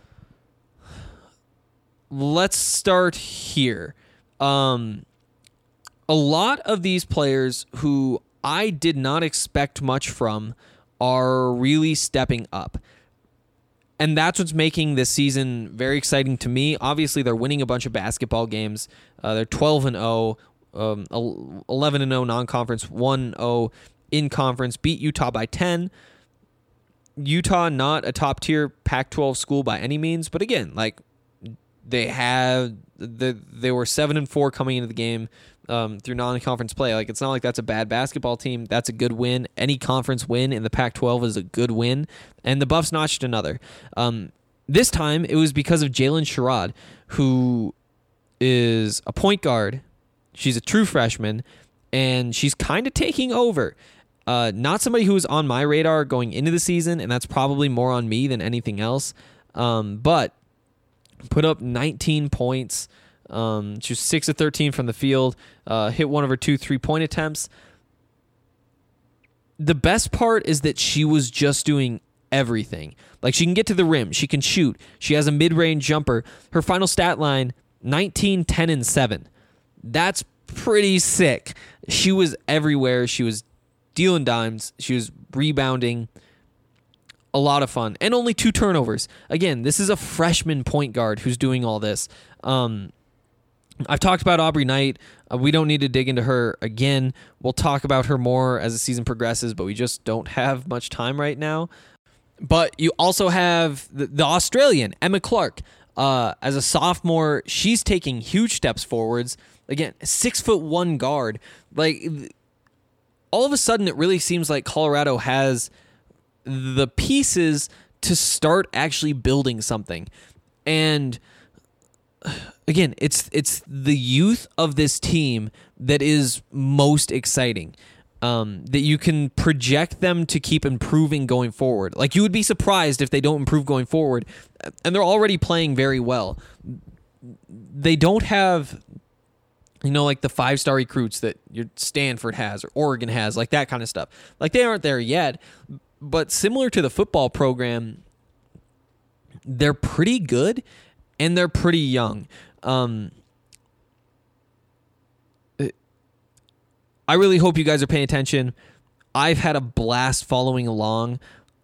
Let's start here. A lot of these players who I did not expect much from are really stepping up. And that's what's making this season very exciting to me. Obviously, they're winning a bunch of basketball games. They're 12-0. 11-0 non-conference, 1-0 in conference, beat Utah by 10. Utah, not a top-tier Pac-12 school by any means, but again, like they were 7-4 coming into the game through non-conference play. Like it's not like that's a bad basketball team. That's a good win. Any conference win in the Pac-12 is a good win, and the Buffs notched another. This time, it was because of Jalen Sherrod, who is a point guard. She's a true freshman, and she's kind of taking over. Not somebody who was on my radar going into the season, and that's probably more on me than anything else. But put up 19 points. She was 6 of 13 from the field. Hit one of her 2 3-point attempts. The best part is that she was just doing everything. Like she can get to the rim. She can shoot. She has a mid-range jumper. Her final stat line, 19, 10, and 7. That's pretty sick. She was everywhere. She was dealing dimes. She was rebounding. A lot of fun. And only 2 turnovers. Again, this is a freshman point guard who's doing all this. I've talked about Aubrey Knight. We don't need to dig into her again. We'll talk about her more as the season progresses, but we just don't have much time right now. But you also have the Australian, Emma Clark. As a sophomore, she's taking huge steps forwards. Again, 6'1" guard. Like, all of a sudden, it really seems like Colorado has the pieces to start actually building something. And again, it's the youth of this team that is most exciting. That you can project them to keep improving going forward. Like, you would be surprised if they don't improve going forward. And they're already playing very well. They don't have, like the 5-star recruits that your Stanford has or Oregon has, like that kind of stuff. Like, they aren't there yet. But similar to the football program, they're pretty good and they're pretty young. I really hope you guys are paying attention. I've had a blast following along.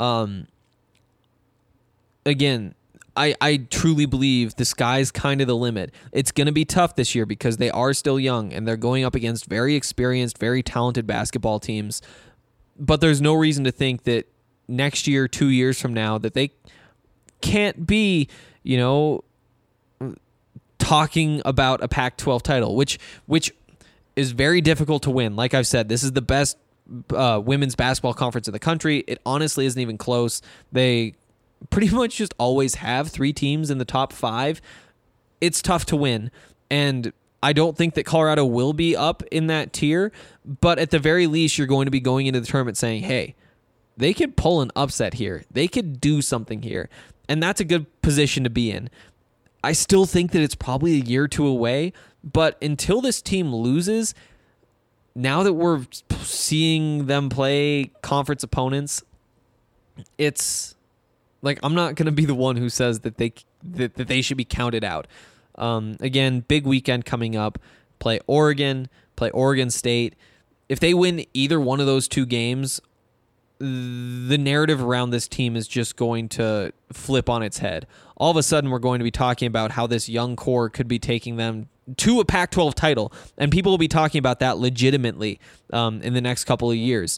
Again, I truly believe the sky's kind of the limit. It's going to be tough this year because they are still young and they're going up against very experienced, very talented basketball teams. But there's no reason to think that next year, 2 years from now, that they can't be, talking about a Pac-12 title, which is very difficult to win. Like I've said, this is the best women's basketball conference in the country. It honestly isn't even close. They pretty much just always have 3 teams in the top 5, it's tough to win. And I don't think that Colorado will be up in that tier, but at the very least, you're going to be going into the tournament saying, hey, they could pull an upset here. They could do something here. And that's a good position to be in. I still think that it's probably a year or 2 away, but until this team loses, now that we're seeing them play conference opponents, it's like I'm not going to be the one who says that they should be counted out. Again, big weekend coming up. Play Oregon State. If they win either one of those 2 games, the narrative around this team is just going to flip on its head. All of a sudden, we're going to be talking about how this young core could be taking them to a Pac-12 title, and people will be talking about that legitimately in the next couple of years.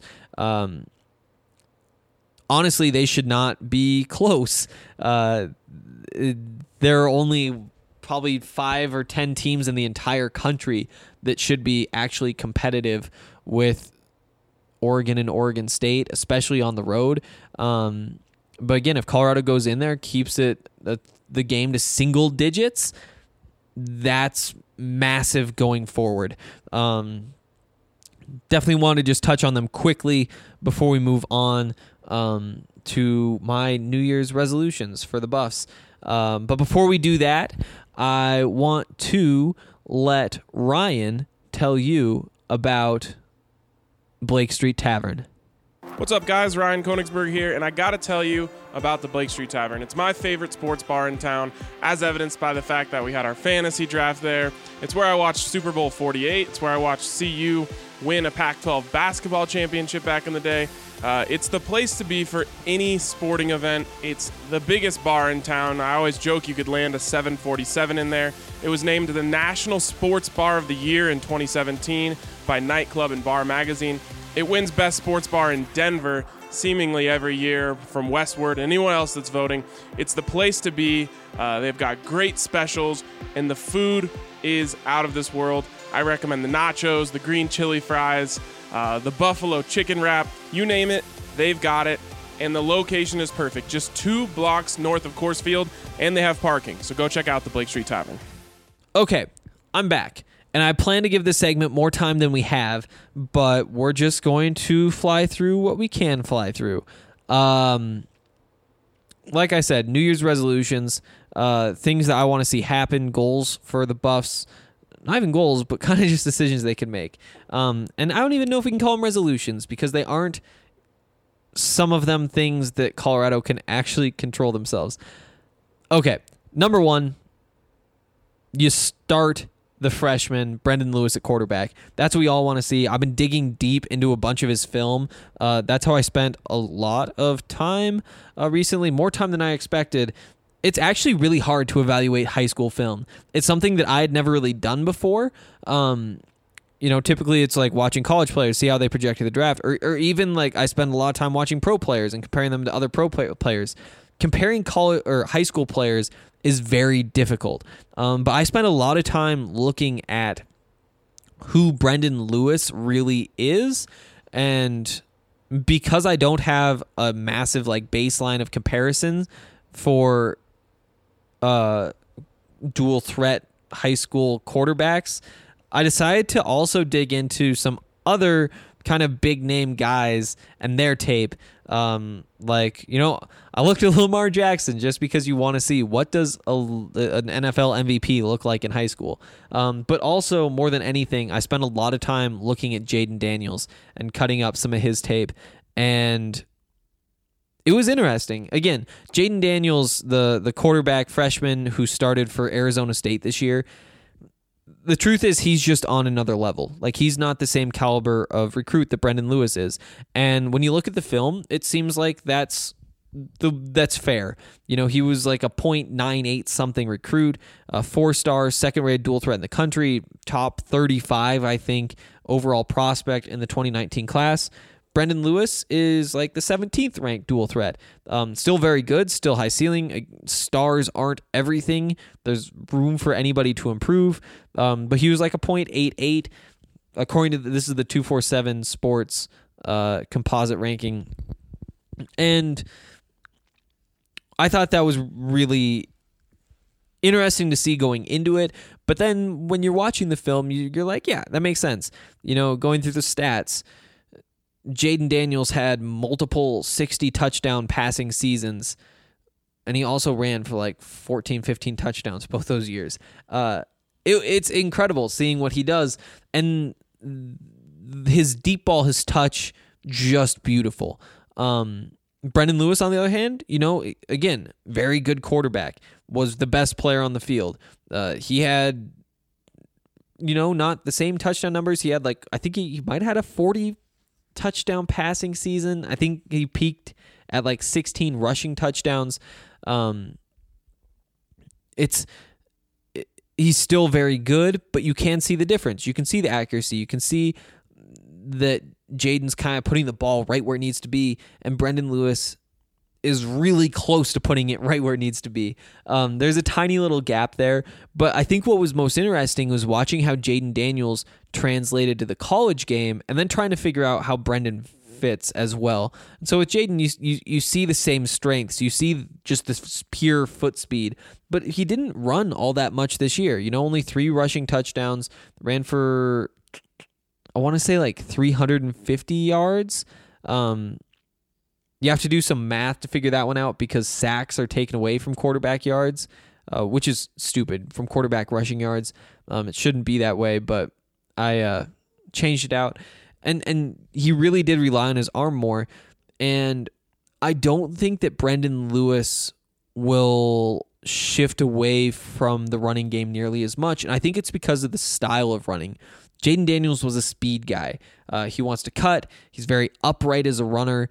Honestly, they should not be close. There are only probably 5 or 10 teams in the entire country that should be actually competitive with Oregon and Oregon State, especially on the road. But again, if Colorado goes in there, keeps it the game to single digits, that's massive going forward. Definitely want to just touch on them quickly before we move on to my New Year's resolutions for the Buffs. But before we do that, I want to let Ryan tell you about Blake Street Tavern. What's up, guys? Ryan Koenigsberg here, and I gotta tell you about the Blake Street Tavern. It's my favorite sports bar in town, as evidenced by the fact that we had our fantasy draft there. It's where I watched Super Bowl 48. It's where I watched CU win a Pac-12 basketball championship back in the day. It's the place to be for any sporting event. It's the biggest bar in town. I always joke you could land a 747 in there. It was named the National Sports Bar of the Year in 2017 by Nightclub and Bar Magazine. It wins Best Sports Bar in Denver seemingly every year from Westward and anyone else that's voting. It's the place to be. They've got great specials, and the food is out of this world. I recommend the nachos, the green chili fries, the buffalo chicken wrap, you name it, they've got it. And the location is perfect, just 2 blocks north of Coors Field, and they have parking. So go check out the Blake Street Tavern. Okay, I'm back. And I plan to give this segment more time than we have, but we're just going to fly through what we can fly through. Like I said, New Year's resolutions, things that I want to see happen, goals for the Buffs. Not even goals, but kind of just decisions they can make. And I don't even know if we can call them resolutions because they aren't some of them things that Colorado can actually control themselves. Okay, number 1, you start the freshman, Brendan Lewis at quarterback. That's what we all want to see. I've been digging deep into a bunch of his film. That's how I spent a lot of time recently, more time than I expected. It's actually really hard to evaluate high school film. It's something that I had never really done before. Typically it's like watching college players, see how they project to the draft, or even like I spend a lot of time watching pro players and comparing them to other pro players. Comparing college or high school players is very difficult. But I spent a lot of time looking at who Brendan Lewis really is, and because I don't have a massive like baseline of comparisons for dual threat high school quarterbacks, I decided to also dig into some other kind of big name guys and their tape. I looked at Lamar Jackson just because you want to see what does an NFL MVP look like in high school. But also, more than anything, I spent a lot of time looking at Jaden Daniels and cutting up some of his tape. And it was interesting. Again, Jaden Daniels, the quarterback freshman who started for Arizona State this year, the truth is he's just on another level. Like, he's not the same caliber of recruit that Brendan Lewis is. And when you look at the film, it seems like that's fair. He was like a .98 something recruit, a 4-star, second-rated dual threat in the country, top 35, I think, overall prospect in the 2019 class. Brendan Lewis is like the 17th ranked dual threat. Still very good, still high ceiling. Stars aren't everything. There's room for anybody to improve. But he was like a .88. According to this is the 247 Sports composite ranking. And I thought that was really interesting to see going into it. But then when you're watching the film, you're like, yeah, that makes sense. Going through the stats, Jayden Daniels had multiple 60 touchdown passing seasons, and he also ran for like 14, 15 touchdowns both those years. It's incredible seeing what he does, and his deep ball, his touch, just beautiful. Brendan Lewis, on the other hand, again, very good quarterback, was the best player on the field. He had, not the same touchdown numbers. He had I think he might have had a 40 touchdown passing season. I think he peaked at 16 rushing touchdowns. He's still very good, but you can see the difference. You can see the accuracy. You can see that Jayden's kind of putting the ball right where it needs to be, and Brendan Lewis is really close to putting it right where it needs to be. There's a tiny little gap there, but I think what was most interesting was watching how Jayden Daniels translated to the college game and then trying to figure out how Brendan fits as well. And so with Jayden, you see the same strengths. You see just this pure foot speed, but he didn't run all that much this year. Only 3 rushing touchdowns, ran for, I want to say 350 yards. You have to do some math to figure that one out because sacks are taken away from quarterback yards, which is stupid, from quarterback rushing yards. It shouldn't be that way, but I changed it out. And he really did rely on his arm more. And I don't think that Brendan Lewis will shift away from the running game nearly as much. And I think it's because of the style of running. Jayden Daniels was a speed guy. He wants to cut. He's very upright as a runner.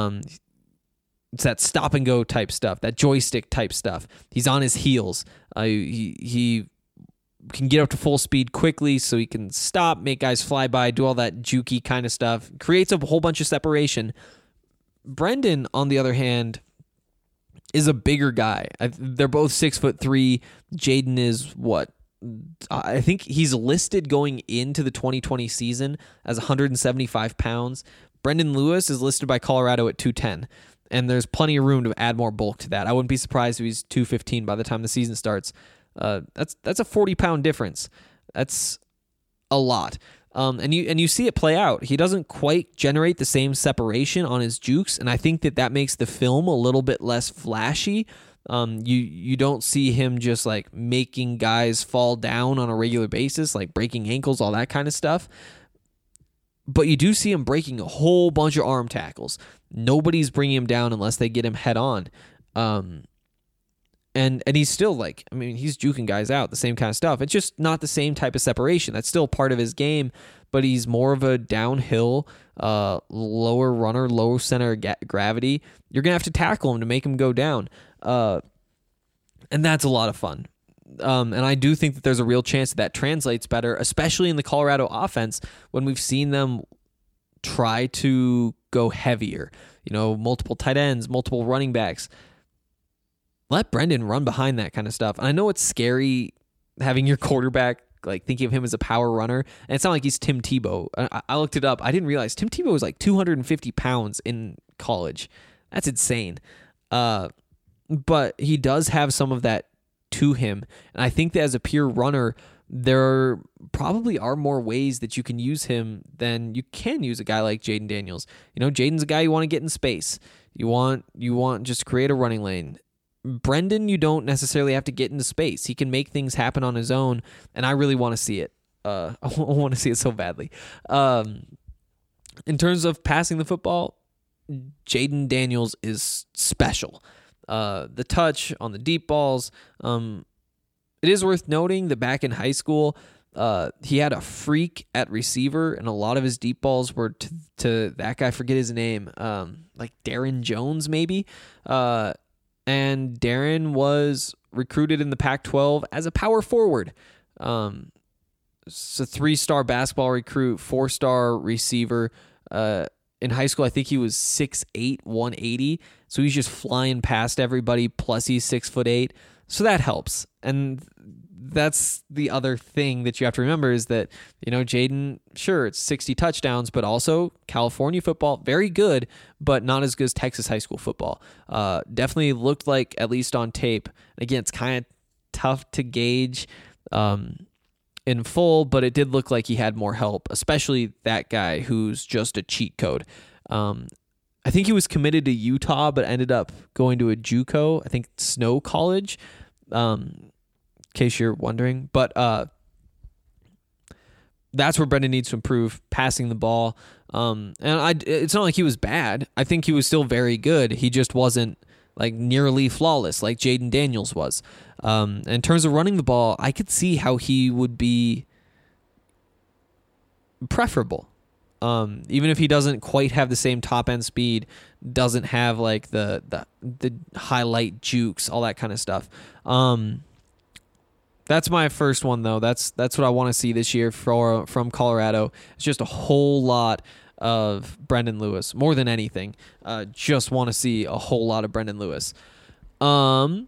It's that stop and go type stuff, that joystick type stuff. He's on his heels. He can get up to full speed quickly, so he can stop, make guys fly by, do all that jukey kind of stuff. Creates a whole bunch of separation. Brendan, on the other hand, is a bigger guy. They're both 6'3". Jayden is what? I think he's listed going into the 2020 season as 175 pounds. Brendan Lewis is listed by Colorado at 210, and there's plenty of room to add more bulk to that. I wouldn't be surprised if he's 215 by the time the season starts. That's a 40-pound difference. That's a lot. And you see it play out. He doesn't quite generate the same separation on his jukes, and I think that makes the film a little bit less flashy. You don't see him just making guys fall down on a regular basis, breaking ankles, all that kind of stuff. But you do see him breaking a whole bunch of arm tackles. Nobody's bringing him down unless they get him head on. And he's still he's juking guys out, the same kind of stuff. It's just not the same type of separation. That's still part of his game, but he's more of a downhill, lower runner, low center gravity. You're going to have to tackle him to make him go down. And that's a lot of fun. And I do think that there's a real chance that translates better, especially in the Colorado offense when we've seen them try to go heavier. Multiple tight ends, multiple running backs. Let Brendan run behind that kind of stuff. And I know it's scary having your quarterback, thinking of him as a power runner. And it's not like he's Tim Tebow. I looked it up. I didn't realize Tim Tebow was 250 pounds in college. That's insane. But he does have some of that to him. And I think that as a pure runner, there probably are more ways that you can use him than you can use a guy like Jayden Daniels. Jayden's a guy you want to get in space. You want just create a running lane. Brendan, you don't necessarily have to get into space. He can make things happen on his own, and I really want to see it. I want to see it so badly. In terms of passing the football, Jayden Daniels is special. The touch on the deep balls. It is worth noting that back in high school, he had a freak at receiver, and a lot of his deep balls were to that guy. I forget his name, Darren Jones maybe. And Darren was recruited in the Pac-12 as a power forward. It's a 3-star basketball recruit, 4-star receiver. In high school, I think he was 6'8", 180. So he's just flying past everybody, plus he's 6'8". So that helps. And that's the other thing that you have to remember is that, Jaden, sure, it's 60 touchdowns, but also California football, very good, but not as good as Texas high school football. Definitely looked like, at least on tape, again, it's kind of tough to gauge in full, but it did look like he had more help, especially that guy who's just a cheat code. I think he was committed to Utah, but ended up going to a JUCO, I think Snow College, in case you're wondering. But that's where Brendan needs to improve, passing the ball. It's not like he was bad. I think he was still very good. He just wasn't like nearly flawless like Jaden Daniels was. In terms of running the ball, I could see how he would be preferable. Even if he doesn't quite have the same top end speed, doesn't have like the highlight jukes, all that kind of stuff. That's my first one though. That's what I want to see this year from Colorado. It's just a whole lot of Brendan Lewis, more than anything. Just want to see a whole lot of Brendan Lewis. Number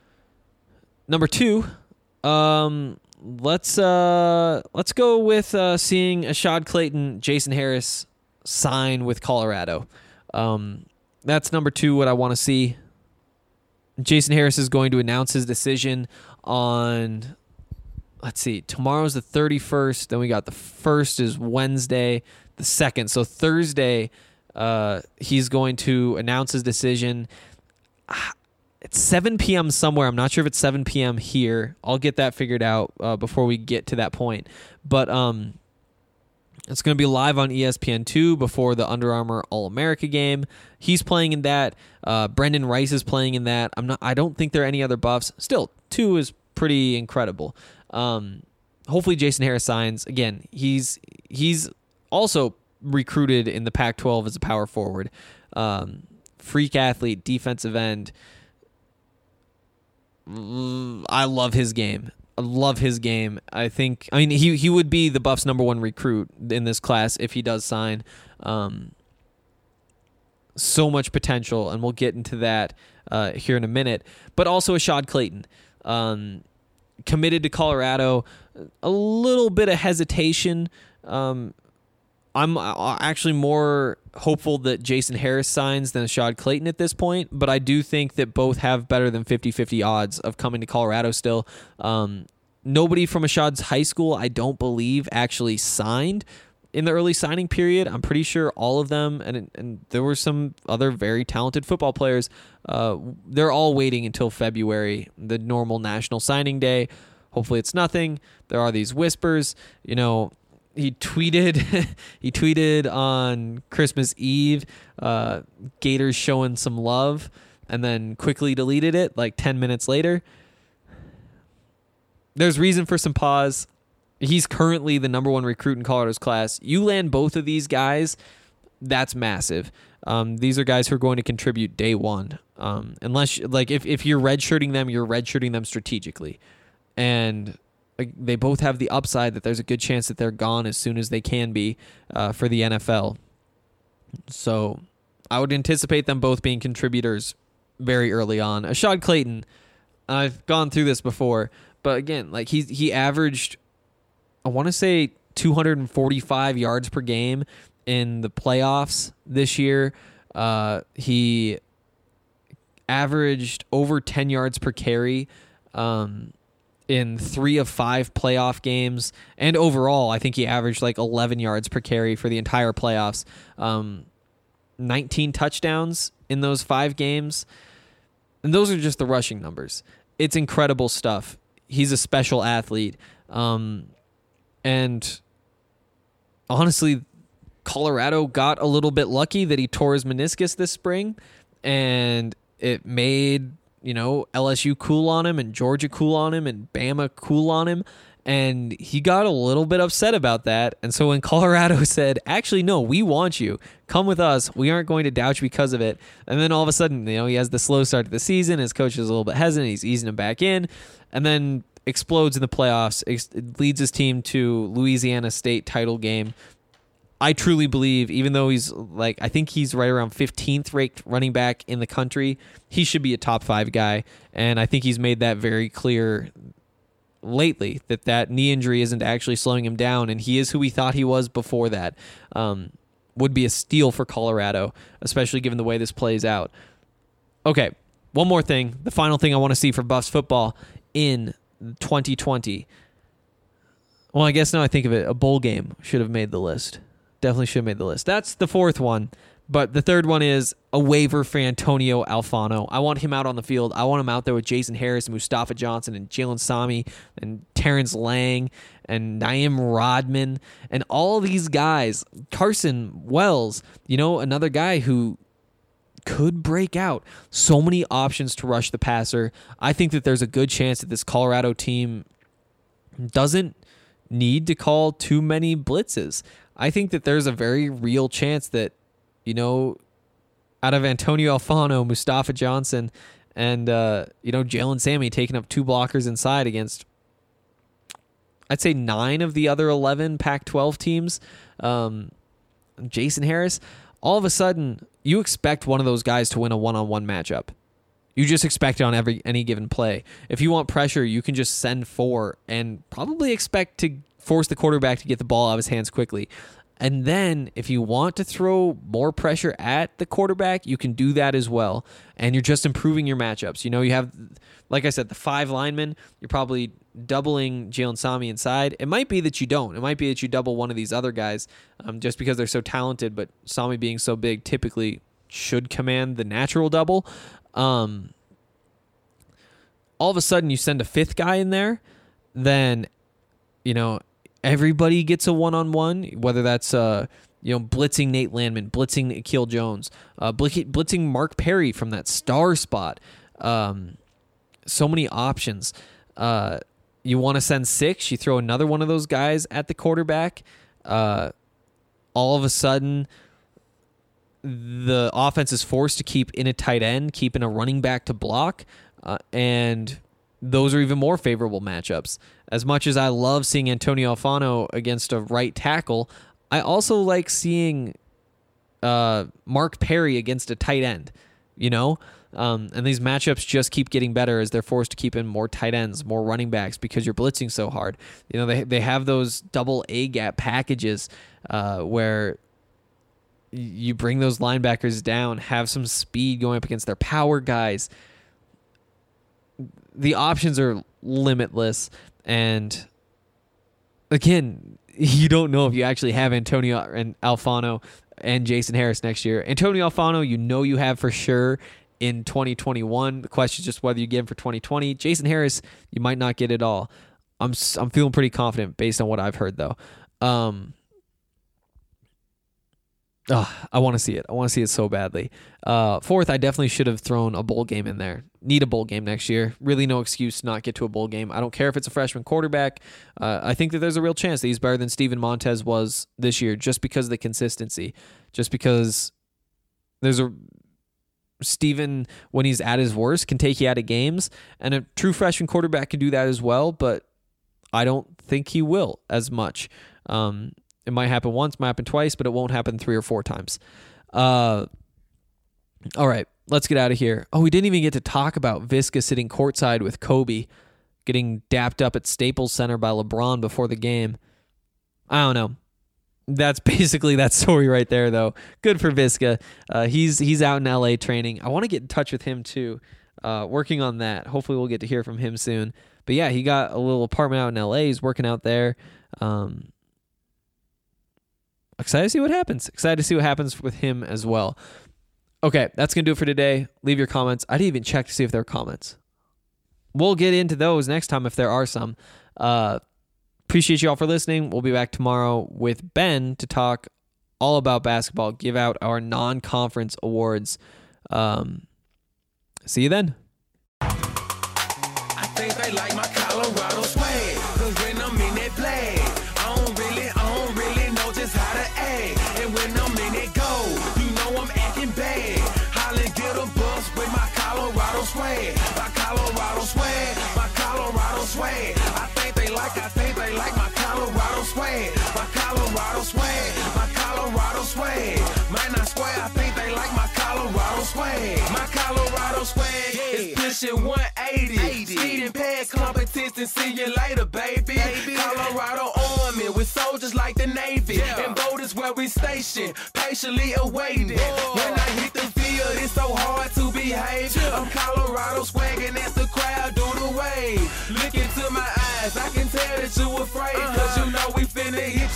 2, let's go with seeing Ashad Clayton, Jason Harris sign with Colorado. That's number 2, what I want to see. Jason Harris is going to announce his decision on, let's see, tomorrow's the 31st, then we got the 1st is Wednesday, the 2nd. So Thursday, he's going to announce his decision. It's 7 p.m. somewhere. I'm not sure if it's 7 p.m. here. I'll get that figured out before we get to that point. But it's going to be live on ESPN2 before the Under Armour All-America game. He's playing in that. Brendan Rice is playing in that. I don't think there are any other buffs. Still, 2 is pretty incredible. Hopefully Jason Harris signs. Again, he's also recruited in the Pac-12 as a power forward. Freak athlete, defensive end. I love his game. I mean, he would be the Buffs' number 1 recruit in this class if he does sign. So much potential, and we'll get into that here in a minute. But also Ashad Clayton, committed to Colorado. A little bit of hesitation. I'm actually more hopeful that Jason Harris signs than Ashad Clayton at this point, but I do think that both have better than 50-50 odds of coming to Colorado still. Nobody from Ashad's high school, I don't believe, actually signed in the early signing period. I'm pretty sure all of them, and there were some other very talented football players, they're all waiting until February, the normal national signing day. Hopefully it's nothing. There are these whispers, He tweeted on Christmas Eve, Gators showing some love, and then quickly deleted it like 10 minutes later. There's reason for some pause. He's currently the number 1 recruit in Colorado's class. You land both of these guys, that's massive. These are guys who are going to contribute day one. Unless, like, if you're redshirting them, you're redshirting them strategically. And they both have the upside that there's a good chance that they're gone as soon as they can be for the NFL. So I would anticipate them both being contributors very early on. Ashad Clayton, I've gone through this before, but again, like he averaged, I want to say 245 yards per game in the playoffs this year. He averaged over 10 yards per carry in 3 of 5 playoff games. And overall, I think he averaged like 11 yards per carry for the entire playoffs. 19 touchdowns in those 5 games. And those are just the rushing numbers. It's incredible stuff. He's a special athlete. And honestly, Colorado got a little bit lucky that he tore his meniscus this spring, and it made, LSU cool on him and Georgia cool on him and Bama cool on him, and he got a little bit upset about that. And so when Colorado said, actually, no, we want you, come with us, we aren't going to doubt you because of it. And then all of a sudden, he has the slow start to the season, his coach is a little bit hesitant, he's easing him back in, and then explodes in the playoffs, leads his team to Louisiana State title game. I truly believe, even though he's I think he's right around 15th ranked running back in the country, he should be a top 5 guy. And I think he's made that very clear lately, that knee injury isn't actually slowing him down, and he is who we thought he was before that. Would be a steal for Colorado, especially given the way this plays out. Okay, one more thing. The final thing I want to see for Buffs football in 2020. Well, I guess now I think of it, a bowl game should have made the list. Definitely should have made the list. That's the fourth one. But the third one is a waiver for Antonio Alfano. I want him out on the field. I want him out there with Jason Harris and Mustafa Johnson and Jalen Sami and Terrence Lang and Naeem Rodman and all these guys. Carson Wells, another guy who could break out. So many options to rush the passer. I think that there's a good chance that this Colorado team doesn't need to call too many blitzes. I think that there's a very real chance that out of Antonio Alfano, Mustafa Johnson, and Jalen Sami taking up 2 blockers inside against, I'd say 9 of the other 11 Pac-12 teams. Jason Harris, all of a sudden, you expect one of those guys to win a one-on-one matchup. You just expect it on any given play. If you want pressure, you can just send 4 and probably expect to force the quarterback to get the ball out of his hands quickly. And then if you want to throw more pressure at the quarterback, you can do that as well. And you're just improving your matchups. You have, like I said, the 5 linemen. You're probably doubling Jalen Sami inside. It might be that you don't. It might be that you double one of these other guys just because they're so talented. But Sami being so big typically should command the natural double. All of a sudden you send a 5th guy in there, then, everybody gets a one-on-one, whether that's blitzing Nate Landman, blitzing Akil Jones, blitzing Mark Perry from that star spot. So many options. You want to send 6, you throw another one of those guys at the quarterback. All of a sudden, the offense is forced to keep in a tight end, keep in a running back to block, and those are even more favorable matchups. As much as I love seeing Antonio Alfano against a right tackle, I also like seeing Mark Perry against a tight end, and these matchups just keep getting better as they're forced to keep in more tight ends, more running backs because you're blitzing so hard. They have those double A gap packages where you bring those linebackers down, have some speed going up against their power guys. The options are limitless, and again, you don't know if you actually have Antonio and Alfano and Jason Harris next year. Antonio Alfano, you have for sure in 2021. The question is just whether you get him for 2020. Jason Harris, you might not get it all. I'm feeling pretty confident based on what I've heard, though. I want to see it. I want to see it so badly. 4th, I definitely should have thrown a bowl game in there. Need a bowl game next year. Really no excuse to not get to a bowl game. I don't care if it's a freshman quarterback. I think that there's a real chance that he's better than Steven Montez was this year just because of the consistency. Just because there's Steven, when he's at his worst, can take you out of games. And a true freshman quarterback can do that as well, but I don't think he will as much. It might happen once, might happen twice, but it won't happen 3 or 4 times. All right, let's get out of here. Oh, we didn't even get to talk about Visca sitting courtside with Kobe, getting dapped up at Staples Center by LeBron before the game. I don't know. That's basically that story right there, though. Good for Visca. He's out in LA training. I want to get in touch with him too, working on that. Hopefully we'll get to hear from him soon. But yeah, he got a little apartment out in LA. He's working out there. Excited to see what happens. Excited to see what happens with him as well. Okay, that's going to do it for today. Leave your comments. I didn't even check to see if there are comments. We'll get into those next time if there are some. Appreciate you all for listening. We'll be back tomorrow with Ben to talk all about basketball, give out our non-conference awards. See you then. I think they like my Colorado swag, 'cause when I'm in that play, I don't really know just how to act. And when I'm in that go, you know I'm acting bad. Holla, get a bus with my Colorado swag. My Colorado swag, my Colorado swag. I think they like my Colorado swag. My Colorado swag, my Colorado swag. Might not swear, I think they like my Colorado swag. My Colorado swag is pushing 180. Speed and pad competition and see you later, baby. Colorado Army with soldiers like the Navy. And boat is where we station, patiently awaiting. When I hit the field, it's so hard to behave. I'm Colorado swagging as the crowd do the wave. Look into my eyes, I can tell that you afraid. Cause you know we finna hit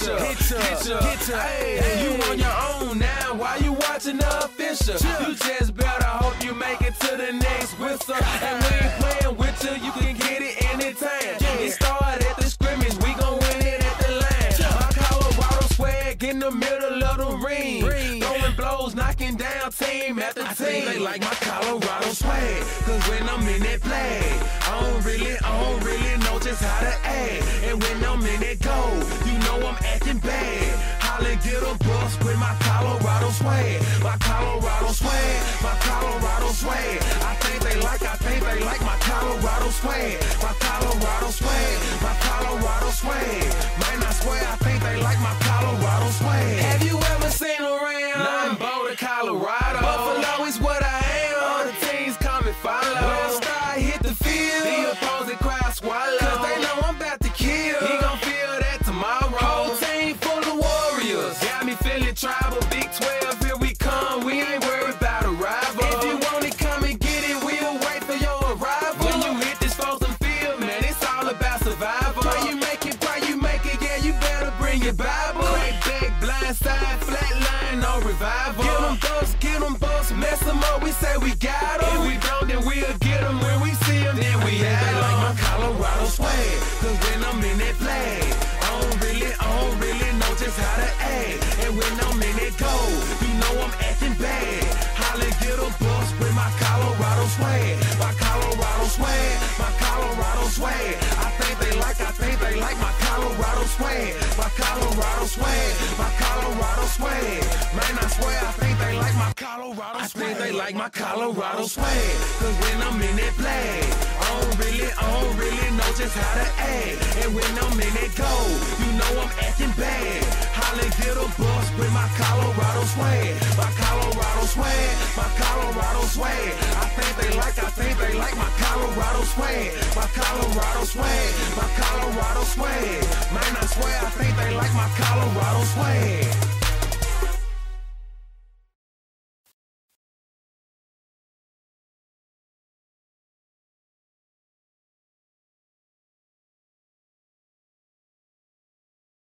ya. Hey, you on your own now, why you watching the official? You just better hope you make it to the next whistle. And we ain't playing with you can get it anytime. It started at the scrimmage, we gon' win it at the line. My Colorado swag in the middle of the ring. Throwing blows, knocking down team after team. I think they like my Colorado swag, cause when I'm in that play, I don't really know just how to act. And when I'm in that goal, you know I'm acting bad. Holla, get a bus with my Colorado swag. My Colorado swag, my Colorado swag. I think they like my Colorado swag. My Colorado swag, my Colorado swag. Man, I swear I think they like my Colorado swag. Have you ever seen around? Nah, I'm Boulder, Colorado. Buffalo is what I am. All the teams come and follow. When I start hit the field, the opposing crowd swallow. Cause they know I'm about to kill. He gon' feel that tomorrow. Whole team full of warriors. Got me feeling tribal. Big 12, here we come. We ain't worried about a rival. If you want it, come and get it. We'll wait for your arrival. When you hit this frozen field, man, it's all about survival. Pray you make it, yeah, you better bring your Bible. Crack back, blind side, flat line, no revival. Get them bucks, mess them up, we say we got them. If we don't, then we'll get them. When we see them, then we have them. They like my Colorado swag, cause when I'm in that flag, I don't really know just how to act. And when I'm in that goal, you know I'm acting bad. Holla, get a bus with my Colorado swag. My Colorado swag, my Colorado swag. I think they like my Colorado swag. My Colorado swag, my Colorado swag. Man, I swear I think they like my Colorado swag. I think they like my Colorado swag. Cause when I'm in that flag, I don't really know just how to act. And when I'm in that goal, you know I'm acting bad. Holla, get a bus with my Colorado swag. My Colorado swag, my Colorado swag. I think they like my Colorado swag. My Colorado swag, my Colorado swag. Man, I swear I think they like my Colorado swag.